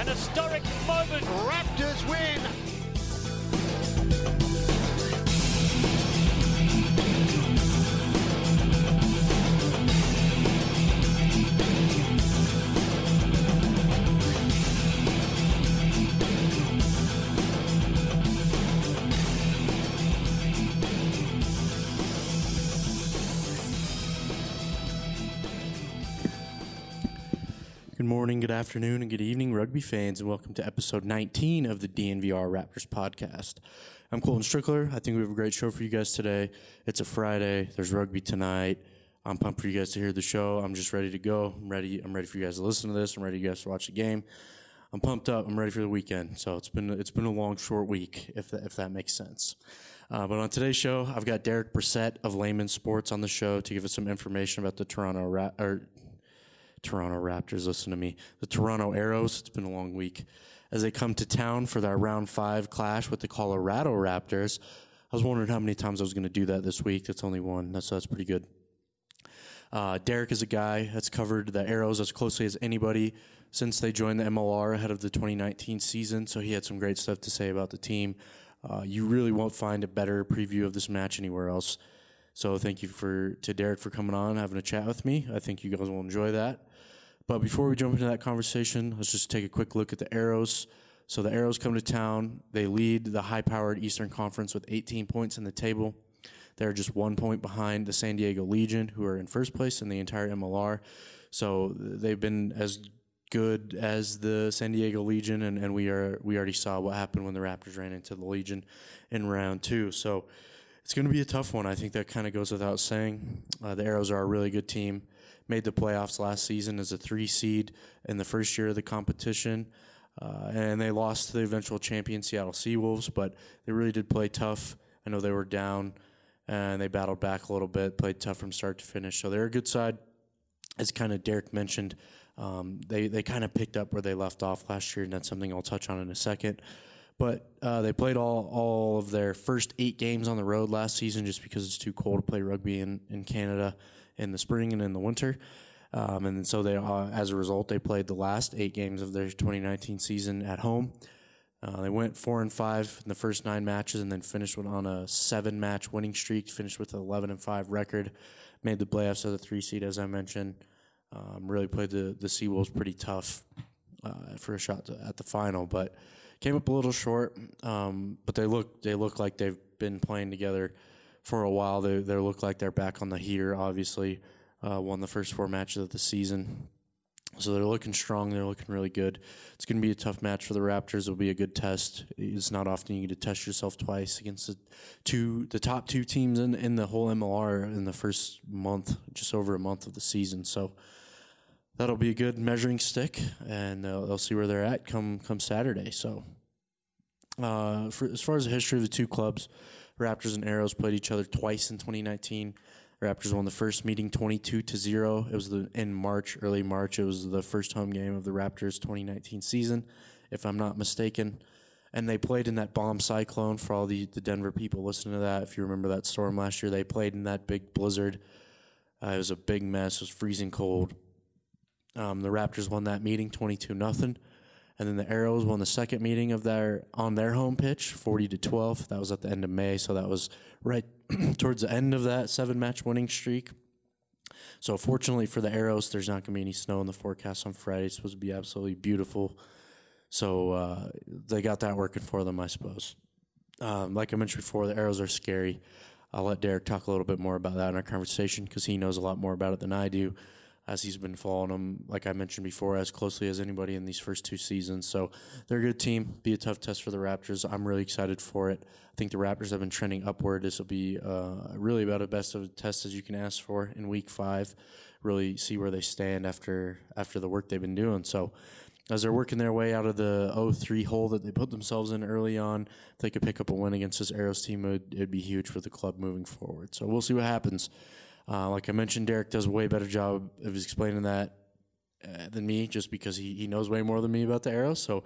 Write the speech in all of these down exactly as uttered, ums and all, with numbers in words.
An historic moment. Raptors win. Good morning, good afternoon, and good evening, rugby fans, and welcome to episode nineteen of the D N V R Raptors podcast. I'm Colton Strickler. I think we have a great show for you guys today. It's a Friday. There's rugby tonight. I'm pumped for you guys to hear the show. I'm just ready to go. I'm ready. I'm ready for you guys to listen to this. I'm ready for you guys to watch the game. I'm pumped up. I'm ready for the weekend. So it's been it's been a long, short week, if that, if that makes sense. Uh, but on today's show, I've got Derek Brissett of Layman Sports on the show to give us some information about the Toronto Ra- or Toronto Raptors, listen to me. The Toronto Arrows, it's been a long week. As they come to town for their round five clash with the Colorado Raptors. I was wondering how many times I was going to do that this week. That's only one, that's, so that's pretty good. Uh, Derek is a guy that's covered the Arrows as closely as anybody since they joined the M L R ahead of the twenty nineteen season, so he had some great stuff to say about the team. Uh, you really won't find a better preview of this match anywhere else. So thank you for to Derek for coming on, having a chat with me. I think you guys will enjoy that. But before we jump into that conversation, let's just take a quick look at the Arrows. So the Arrows come to town. They lead the high-powered Eastern Conference with eighteen points in the table. They're just one point behind the San Diego Legion, who are in first place in the entire M L R. So they've been as good as the San Diego Legion, and, and we are we already saw what happened when the Raptors ran into the Legion in round two. So it's going to be a tough one. I think that kind of goes without saying. Uh, the Arrows are a really good team. Made the playoffs last season as a three seed in the first year of the competition. Uh, and they lost to the eventual champion Seattle Seawolves, but they really did play tough. I know they were down, and they battled back a little bit, played tough from start to finish. So they're a good side. As kind of Derek mentioned, um, they, they kind of picked up where they left off last year, and that's something I'll touch on in a second. But uh, they played all, all of their first eight games on the road last season just because it's too cold to play rugby in, in Canada in the spring and in the winter. Um, and so they, uh, as a result, they played the last eight games of their twenty nineteen season at home. Uh, they went four and five in the first nine matches and then finished on a seven-match winning streak, finished with an eleven and five record, made the playoffs as a three seed, as I mentioned. Um, really played the, the Seawolves pretty tough uh, for a shot to, at the final, but came up a little short. Um, but they look they look like they've been playing together for a while. They they look like they're back on the heater, obviously. Uh, won the first four matches of the season. So they're looking strong. They're looking really good. It's going to be a tough match for the Raptors. It'll be a good test. It's not often you get to test yourself twice against the two, the top two teams in, in the whole M L R in the first month, just over a month of the season. So that'll be a good measuring stick, and they'll, they'll see where they're at come come Saturday. So uh, for, as far as the history of the two clubs, Raptors and Arrows played each other twice in twenty nineteen. Raptors won the first meeting twenty-two to zero. It was the, in March, early March. It was the first home game of the Raptors twenty nineteen season, if I'm not mistaken. And they played in that bomb cyclone for all the, the Denver people listening to that. If you remember that storm last year, they played in that big blizzard. Uh, it was a big mess. It was freezing cold. Um, the Raptors won that meeting twenty-two nothing. And then the Arrows won the second meeting of their on their home pitch, forty to twelve. That was at the end of May, so that was right towards the end of that seven-match winning streak. So fortunately for the Arrows, there's not going to be any snow in the forecast on Friday. It's supposed to be absolutely beautiful. So uh, they got that working for them, I suppose. Um, like I mentioned before, the Arrows are scary. I'll let Derek talk a little bit more about that in our conversation because he knows a lot more about it than I do, as he's been following them, like I mentioned before, as closely as anybody in these first two seasons. So they're a good team. Be a tough test for the Raptors. I'm really excited for it. I think the Raptors have been trending upward. This will be uh, really about the best of a test as you can ask for in week five. Really see where they stand after after the work they've been doing. So as they're working their way out of the oh three hole that they put themselves in early on, if they could pick up a win against this Arrows team, it would it'd be huge for the club moving forward. So we'll see what happens. Uh, like I mentioned, Derek does a way better job of explaining that uh, than me, just because he, he knows way more than me about the Arrows. So,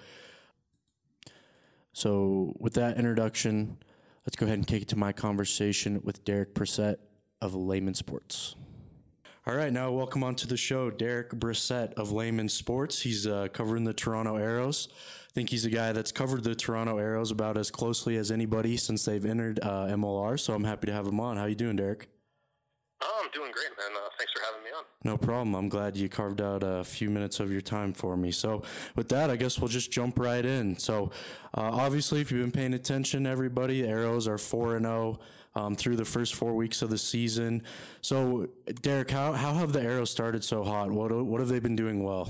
so with that introduction, let's go ahead and kick it to my conversation with Derek Brissett of Layman Sports. All right, now welcome onto the show, Derek Brissett of Layman Sports. He's uh, covering the Toronto Arrows. I think he's a guy that's covered the Toronto Arrows about as closely as anybody since they've entered uh, M L R, so I'm happy to have him on. How you doing, Derek? Oh, I'm doing great, man. Uh, thanks for having me on. No problem. I'm glad you carved out a few minutes of your time for me. So with that, I guess we'll just jump right in. So uh, obviously, if you've been paying attention, everybody, the Arrows are four and oh um, through the first four weeks of the season. So, Derek, how, how have the Arrows started so hot? What what have they been doing well?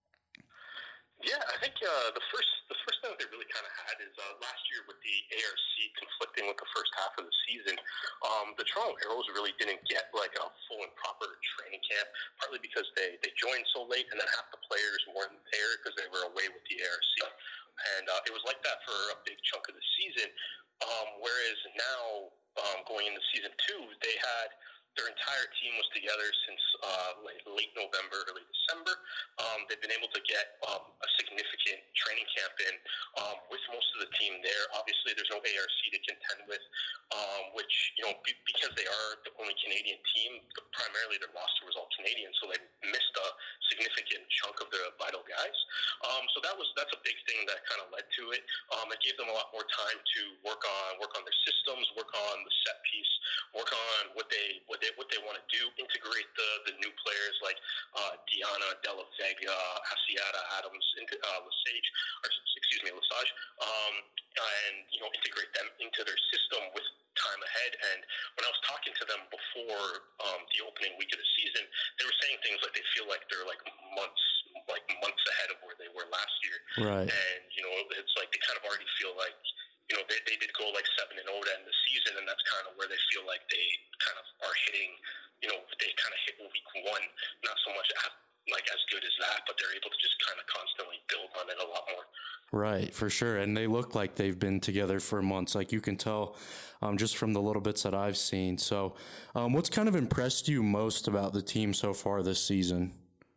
Yeah, I think uh, the first the first thing that they really kind of had is uh, last year with the A R C conflicting with the first half of the season, um, the Toronto Arrows really didn't get like a full and proper training camp, partly because they, they joined so late, and then half the players weren't there because they were away with the A R C. And uh, it was like that for a big chunk of the season, um, whereas now, um, going into season two, they had their entire team was together since uh, late, late November, early December. Um, they've been able to get um, a significant training camp in um, with most of the team there. Obviously, there's no A R C to contend with, um, which, you know, be, because they are the only Canadian team, primarily their roster was all Canadian, so they missed a significant chunk of their vital guys. Um, so that was that's a big thing that kind of led to it. Um, it gave them a lot more time to work on work on their systems, work on the set piece, work on what they what they what they want to do, integrate the the new players like uh, Diana, Della Vega, Asiata, Adams, into uh, Lesage, or excuse me, Lesage, um, and you know integrate them into their system with time ahead. And when I was talking to them before um, the opening week of the season, they were saying things like they feel like they're like months, like months ahead of where they were last year. Right. And you know, it's like they kind of already feel like, you know, they, they did go like seven and zero to end the season, and that's kind of where they feel like they kind of are hitting. You know, they kind of hit week one, not so much as, like as good as that, but they're able to just kind of constantly build on it a lot more. Right, for sure. And they look like they've been together for months. Like you can tell um, just from the little bits that I've seen. So um, what's kind of impressed you most about the team so far this season?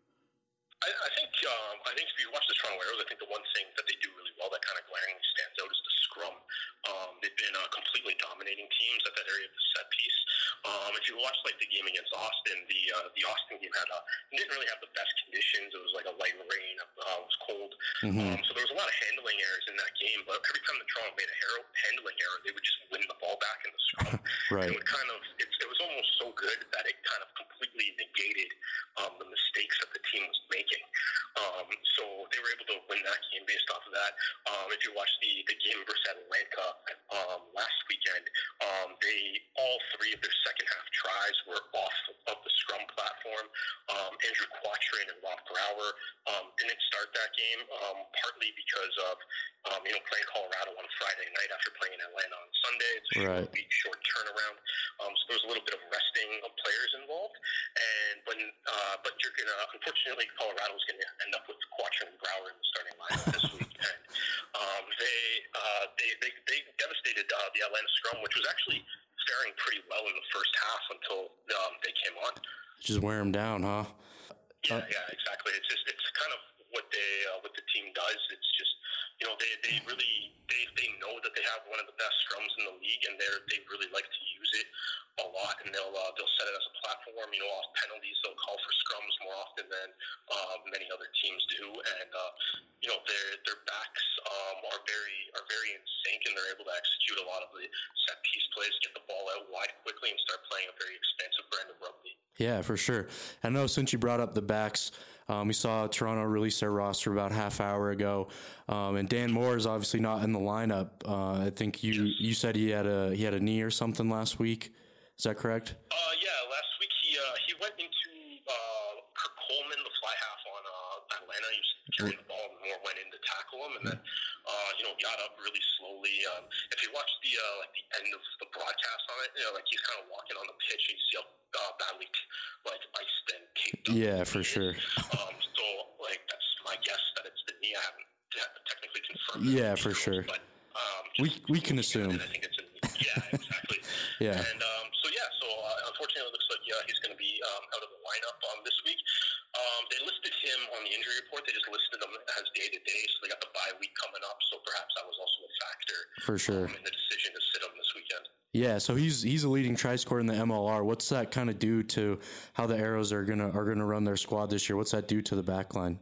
I, I think um, I think if you watch the Toronto Arrows, I think the one thing that they do really well that kind of glaringly stands out is the scrum. Um, they've been uh, completely dominating teams at that area of the set piece. Um, if you watch like the game against Austin, the uh, the Austin game had uh, didn't really have the best conditions. It was like a light rain, uh, it was cold, mm-hmm. um, so there was a lot of handling errors in that game. But every time the Toronto made a hero, handling error, they would just win the ball back in the scrum. Right. And it would kind of it, it was almost so good that it kind of completely negated um, the mistakes that the team was making. Um, so they were able to win that game based off of that. Um, if you watch the the game versus Atlanta um, last weekend, um, they all three of their second half tries were off of the scrum platform. Um, Andrew Quattrin and Rob Brower um, didn't start that game, um, partly because of um, you know playing Colorado on Friday night after playing Atlanta on Sunday. It's a right. short week, short turnaround. Um, so there was a little bit of resting of players involved. And when uh, but you're gonna unfortunately Colorado's gonna end up with Quattrin and Brower in the starting lineup this week. And um, they, uh, they they they devastated uh, the Atlanta scrum, which was actually faring pretty well in the first half until um, they came on. Just wear them down, huh? Yeah, uh, yeah, exactly. It's just it's kind of what they uh, what the team does. It's just you know they, they really they, they know that they have one of the best scrums in the league, and they are they really like to use it a lot, and they'll uh, they'll set it as a platform. You know, off penalties, they'll call for scrums more often than uh, many other teams do, and uh, you know their their backs um, are very are very in sync, and they're able to execute a lot of the set piece plays, get the ball out wide quickly, and start playing a very expansive brand of rugby. Yeah, for sure. I know since you brought up the backs, um, we saw Toronto release their roster about half hour ago, um, and Dan Moore is obviously not in the lineup. Uh, I think you yes. you said he had a he had a knee or something last week. Is that correct? Uh, yeah, last week he uh, he went into uh, Kirk Coleman, the fly half on uh, Atlanta. He was carrying the ball, and Moore went in to tackle him, and then uh, you know got up really slowly. Um, if you watch the uh, like the end of the broadcast on it, you know, like he's kind of walking on the pitch, and you see how uh, badly like iced and taped up. Yeah, for sure. um, so like that's my guess that it's the knee. I haven't technically confirmed. Yeah, for sure. But um, we we can assume. I think it's a, yeah, exactly. yeah. And um, so yeah, so uh, unfortunately, it looks like yeah he's going to be um, out of the lineup um, this week. Um, they listed him on the injury injury report. They just listed them as day-to-day, so they got the bye week coming up, so perhaps that was also a factor for sure um, in the decision to sit him this weekend. Yeah, so he's he's a leading try scorer in the M L R. What's that kind of do to how the Arrows are gonna are gonna run their squad this year? What's that do to the back line?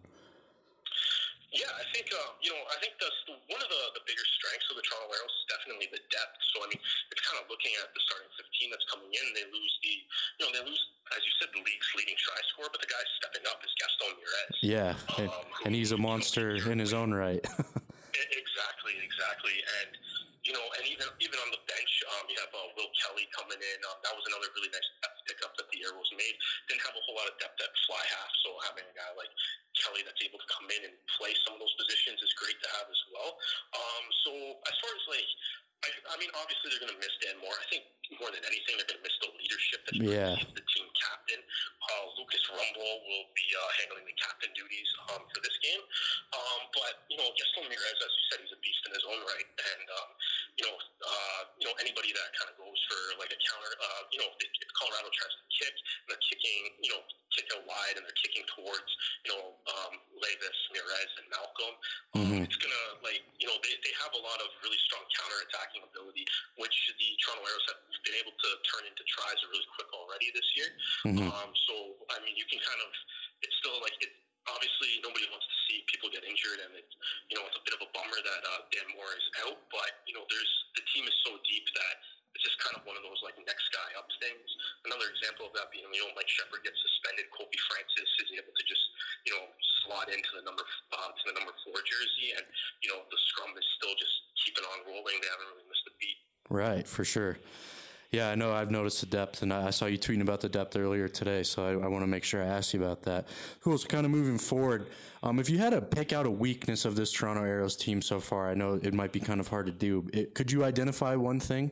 Yeah, I think uh, you know I think that's the, one of the, the bigger strengths of the Toronto Arrows is definitely the depth. So I mean, it's kind of looking at the starting fifteen that's coming in. They lose the you know they lose as you said the league's leading try scorer, but the guy stepping up is Gaston Mirez. Yeah, um, and, and he's a monster you know, in his own right. Exactly, exactly, and you know, and even even on the bench, um, you have uh, Will Kelly coming in. Um, that was another really nice depth pickup that the Arrows made. Didn't have a whole lot of depth at fly half, so having a guy like Kelly that's able to come in and play some of those positions is great to have as well. Um, so as far as like, I, I mean, obviously they're going to miss Dan Moore. I think more than anything, they're going to miss the leadership that he yeah. brings as the team captain. Uh, Lucas Rumble will be uh, handling the captain duties um, for this game. Um, but you know, Gaston Mirez, as you said, he's a beast in his own right, and um, you know, uh, you know, anybody that kind of goes for like a counter, uh, you know, if, if Colorado tries to kick and they're kicking, you know, kick out wide and they're kicking towards, you know, um, Levis, Mirez, and Malcolm, um, mm-hmm. it's gonna like, you know, they, they have a lot of really strong counterattacking ability, which the Toronto Arrows have been able to turn into tries really quick already this year. Mm-hmm. Um, so I mean, you can kind of, it's still like it. Obviously, nobody wants to see people get injured, and it's you know it's a bit of a bummer that uh, Dan Moore is out. But you know, there's the team is so deep that it's just kind of one of those like next guy up things. Another example of that being, you know, Mike Shepard gets suspended, Colby Francis is able to just you know slot into the number uh, to the number four jersey, and you know the scrum is still just keeping on rolling. They haven't really missed a beat. Right, for sure. Yeah, I know I've noticed the depth, and I saw you tweeting about the depth earlier today, so I, I want to make sure I ask you about that. Cool, so kind of moving forward, um, if you had to pick out a weakness of this Toronto Arrows team so far, I know it might be kind of hard to do. It, could you identify one thing?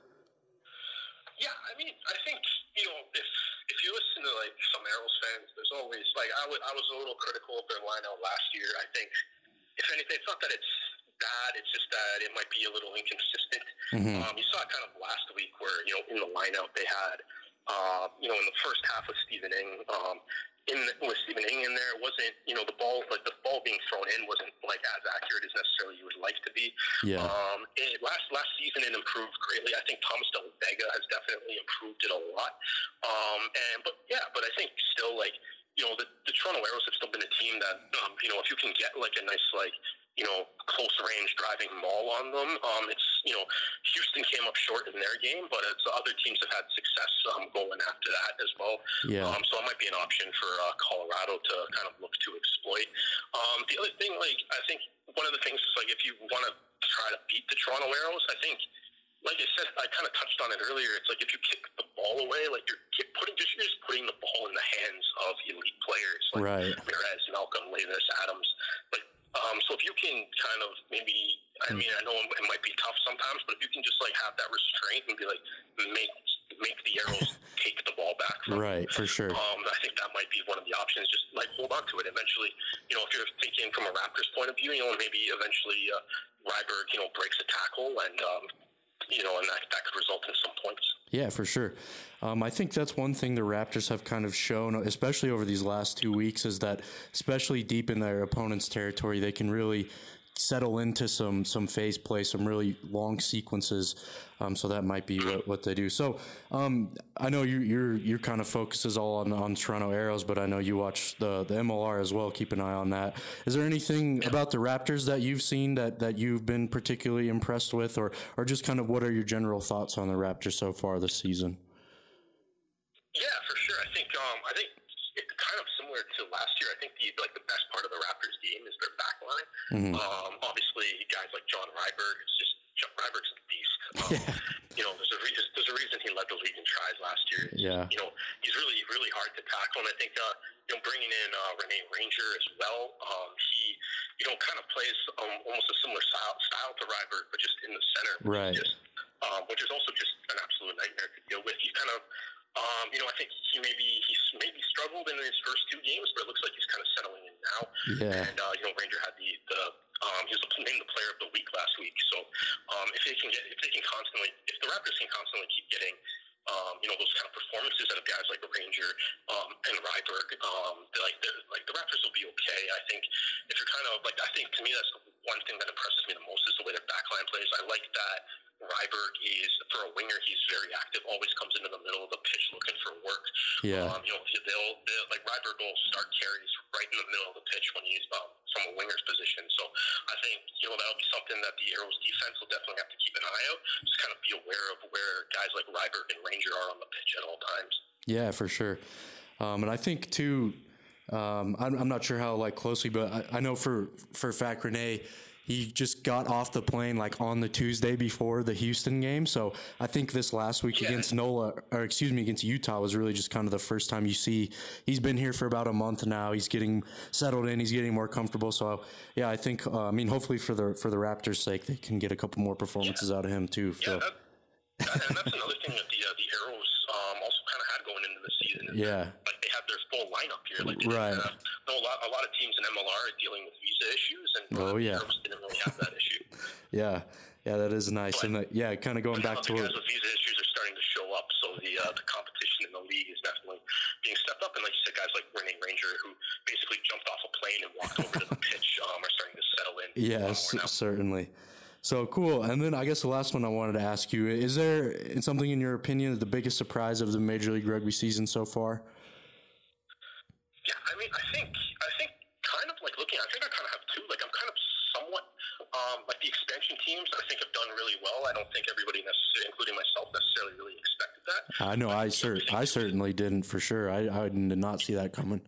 Yeah, I mean, I think, you know, if if you listen to, like, some Arrows fans, there's always, like, I, w- I was a little critical of their lineup last year. I think, if anything, it's not that it's bad, it's just that it might be a little inconsistent. Mm-hmm. Um, you saw it kind of last week where, you know, in the lineup they had, uh, you know, in the first half with Stephen Ing, um, in the, with Stephen Ing in there, it wasn't, you know, the ball, like the ball being thrown in wasn't like as accurate as necessarily you would like to be. Yeah. Um, it, last last season it improved greatly. I think Thomas Del Vega has definitely improved it a lot. Um, and but yeah, but I think still like, you know, the, the Toronto Arrows have still been a team that, um, you know, if you can get like a nice like, you know, close range driving maul on them. Um, it's, you know, Houston came up short in their game, but it's other teams have had success um, going after that as well. Yeah. Um, so it might be an option for uh, Colorado to kind of look to exploit. Um, the other thing, like, I think one of the things is, like, if you want to try to beat the Toronto Arrows, I think, like I said, I kind of touched on it earlier. It's like if you kick the ball away, like you're putting just you're just putting the ball in the hands of elite players like right. Mirez, Malcolm, Levis, Adams. Like, um, so if you can kind of maybe, I mean, I know it might be tough sometimes, but if you can just like have that restraint and be like make make the Arrows take the ball back from right, for sure. Um, I think that might be one of the options. Just like hold on to it. Eventually, you know, if you're thinking from a Raptors point of view, you know, maybe eventually uh, Ryberg, you know, breaks a tackle and. Um, You know, and that, that could result in some points. Yeah, for sure. Um, I think that's one thing the Raptors have kind of shown, especially over these last two weeks, is that especially deep in their opponent's territory, they can really settle into some some phase play, some really long sequences. Um, so that might be what, what they do. So um, I know you, your your kind of focus is all on on Toronto Arrows, but I know you watch the the M L R as well. Keep an eye on that. Is there anything yeah. about the Raptors that you've seen that, that you've been particularly impressed with, or or just kind of what are your general thoughts on the Raptors so far this season? Yeah, for sure. I think um, I think it's kind of similar to last year. I think the like the best part of the Raptors game is their back line. Mm-hmm. Um, obviously, guys like John Ryberg, it's just John Ryberg's a beast. Um, yeah. You know, there's a reason. There's a reason he led the league in tries last year. Yeah. You know, he's really really hard to tackle, and I think uh, you know bringing in uh, Rene Ranger as well. Um, he you know kind of plays um, almost a similar style, style to Ryberg, but just in the center. Which right. Is just, um, which is also just an absolute nightmare to deal with. He kind of. Um, you know, I think he maybe he's maybe struggled in his first two games, but it looks like he's kind of settling in now. Yeah. And uh, you know, Ranger had the the um, he was named the player of the week last week. So um, if they can get if they can constantly if the Raptors can constantly keep getting um, you know, those kind of performances out of guys like Ranger um, and Ryberg, um, like the like the Raptors will be okay. I think if you're kind of like, I think to me that's the one thing that impresses me the most is the way their backline plays. I like that Ryberg is, for a winger, he's very active, always comes into the middle of the pitch looking for work. Yeah. Um, you know, they'll, they'll, like Ryberg will start carries right in the middle of the pitch when he's um, from a winger's position. So I think, you know, that'll be something that the Arrows defense will definitely have to keep an eye out. Just kind of be aware of where guys like Ryberg and Ranger are on the pitch at all times. Yeah, for sure. Um, and I think, too, um, I'm, I'm not sure how, like, closely, but I, I know for, for a fact, Renee, he just got off the plane like on the Tuesday before the Houston game. So I think this last week yeah. against NOLA, or excuse me, against Utah was really just kind of the first time you see he's been here for about a month now. He's getting settled in. He's getting more comfortable. So yeah, I think, uh, I mean, hopefully for the, for the Raptors' sake, they can get a couple more performances yeah. out of him too. Yeah, so. that, that, and that's another thing that the, uh, the Arrows um, also kind of had going into the season. Yeah. That, like they had their full lineup here. Like they right. Have, no, a lot, a lot of teams in M L R are dealing with visa issues, and uh, oh, yeah. the Arrows didn't really have that issue. yeah, yeah, that is nice, but, and uh, yeah, kind of going back to guys with visa issues are starting to show up, so the uh, the competition in the league is definitely being stepped up. And like you said, guys like Renee Ranger, who basically jumped off a plane and walked over to the pitch, um, are starting to settle in. Yes, certainly. So cool. And then I guess the last one I wanted to ask you, is there something in your opinion the biggest surprise of the Major League Rugby season so far? Yeah, I mean, I think, I think kind of like looking, I think I kind of have two. Like I'm kind of somewhat, um, like the expansion teams I think have done really well. I don't think everybody necessarily, including myself, necessarily really expected that. I know, I, cer- I certainly didn't for sure. I, I did not see that coming.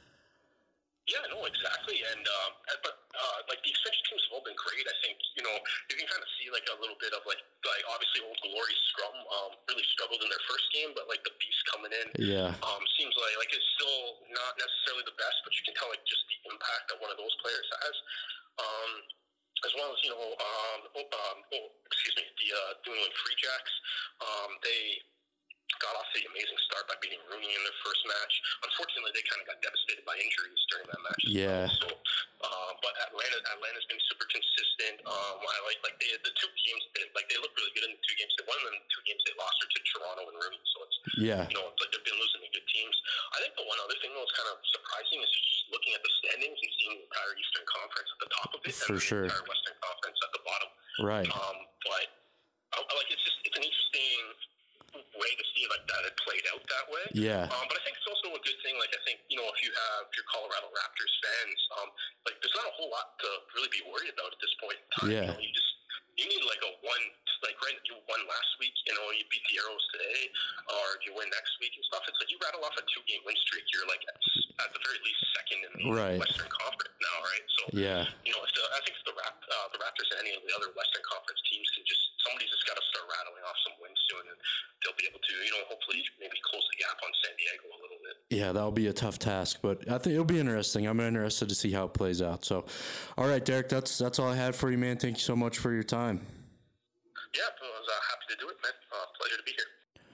Yeah, no, exactly. And, um, but, uh, like the expansion teams have all been great. I think, you know, you can kind of see like a little bit of like, like obviously Old Glory Scrum, um, really struggled in their first game, but like the Beast coming in, yeah, um, seems like, like it's still not necessarily the best, but you can tell like just the impact that one of those players has. Um, as well as, you know, um, oh, um, oh, excuse me, the, uh, New England Free Jacks, um, they got off the amazing start by beating Rooney in their first match. Unfortunately, they kind of got devastated by injuries during that match. Yeah. Well. So, uh, but Atlanta, Atlanta's been super consistent. Um, I like like they the two games they like they look really good in the two games they won, and then the two games they lost are to Toronto and Rooney. So it's yeah, you know, it's like they've been losing to good teams. I think the one other thing that was kind of surprising is just looking at the standings and seeing the entire Eastern Conference at the top of it, for and sure, the entire Western Conference at the bottom. Right. Um, but I, I like it's just it's an interesting way to see like that it played out that way. Yeah. Um, but I think it's also a good thing. Like I think, you know, if you have if you're Colorado Raptors fans, um, like there's not a whole lot to really be worried about at this point in time. Yeah. You know, you just you need like a one like right you won last week, you know, you beat the Arrows today, or you win next week and stuff. It's like you rattle off a two game win streak, you're like at, at the very least second in the right. Western Conference now, right? So yeah. you know, if the, I think if the Rap, uh, the Raptors and any of the other Western Conference teams can just somebody's just got to start rattling off some wins soon, and they'll be able to, you know, hopefully maybe close the gap on San Diego a little bit. Yeah, that'll be a tough task, but I think it'll be interesting. I'm interested to see how it plays out. So, all right, Derek, that's that's all I had for you, man. Thank you so much for your time. Yeah, I was uh, happy to do it, man. Uh, pleasure to be here.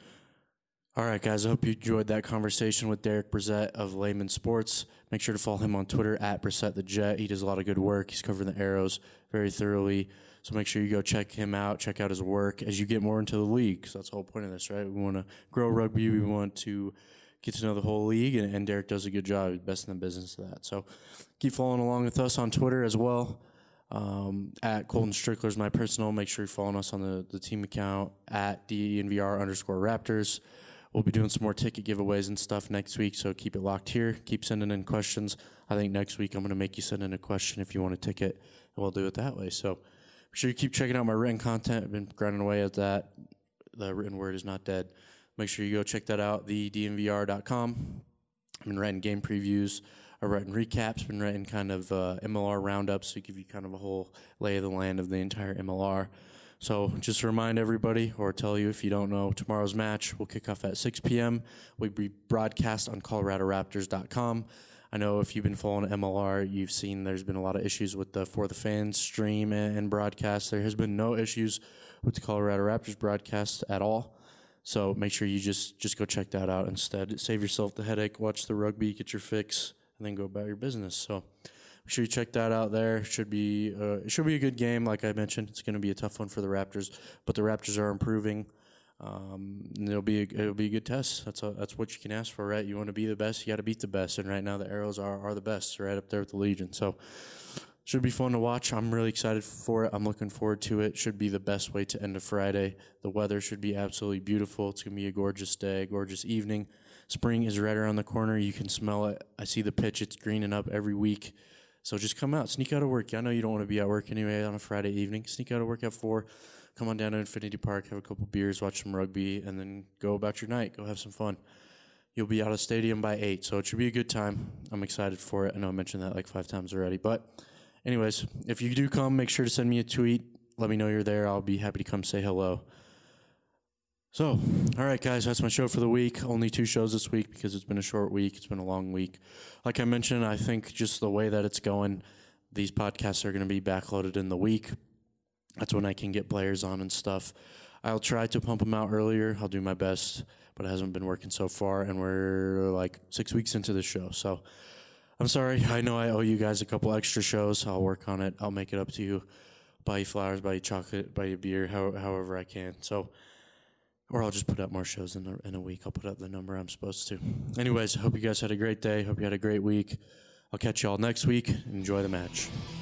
All right, guys, I hope you enjoyed that conversation with Derek Brissett of Layman Sports. Make sure to follow him on Twitter, at Brissett the Jet. He does a lot of good work. He's covering the Arrows very thoroughly. So make sure you go check him out, check out his work as you get more into the league, because that's the whole point of this, right? We want to grow rugby. We want to get to know the whole league, and, and Derek does a good job. He's best in the business of that. So keep following along with us on Twitter as well. Um, at Colton Strickler is my personal. Make sure you're following us on the, the team account at D N V R underscore Raptors. We'll be doing some more ticket giveaways and stuff next week, so keep it locked here. Keep sending in questions. I think next week I'm going to make you send in a question if you want a ticket, and we'll do it that way. So make sure you keep checking out my written content. I've been grinding away at that. The written word is not dead. Make sure you go check that out, the D N V R dot com. I've been writing game previews. I've written recaps, been writing kind of uh, M L R roundups to give you kind of a whole lay of the land of the entire M L R. So just to remind everybody, or tell you if you don't know, tomorrow's match will kick off at six p.m. We'll be broadcast on Colorado Raptors dot com. I know if you've been following M L R, you've seen there's been a lot of issues with the For the Fans stream and broadcast. There has been no issues with the Colorado Raptors broadcast at all. So make sure you just, just go check that out instead. Save yourself the headache, watch the rugby, get your fix, and then go about your business. So make sure you check that out there. Should be uh, it should be a good game. Like I mentioned, it's going to be a tough one for the Raptors, but the Raptors are improving. Um, and it'll be a, it'll be a good test. That's a, that's what you can ask for, right? You want to be the best, you got to beat the best. And right now, the Arrows are are the best, right up there with the Legion. So should be fun to watch. I'm really excited for it. I'm looking forward to it. Should be the best way to end a Friday. The weather should be absolutely beautiful. It's gonna be a gorgeous day, gorgeous evening. Spring is right around the corner. You can smell it. I see the pitch. It's greening up every week. So just come out, sneak out of work. I know you don't want to be at work anyway on a Friday evening. Sneak out of work at four. Come on down to Infinity Park, have a couple beers, watch some rugby, and then go about your night. Go have some fun. You'll be out of the stadium by eight, so it should be a good time. I'm excited for it. I know I mentioned that like five times already. But anyways, if you do come, make sure to send me a tweet. Let me know you're there. I'll be happy to come say hello. So, all right, guys, that's my show for the week. Only two shows this week because it's been a short week. It's been a long week. Like I mentioned, I think just the way that it's going, these podcasts are going to be backloaded in the week. That's when I can get players on and stuff. I'll try to pump them out earlier. I'll do my best, but it hasn't been working so far, and we're like six weeks into the show. So I'm sorry. I know I owe you guys a couple extra shows. I'll work on it. I'll make it up to you. Buy you flowers, buy you chocolate, buy you beer, how, however I can. So... Or I'll just put out more shows in a, in a week. I'll put out the number I'm supposed to. Anyways, I hope you guys had a great day. Hope you had a great week. I'll catch you all next week. Enjoy the match.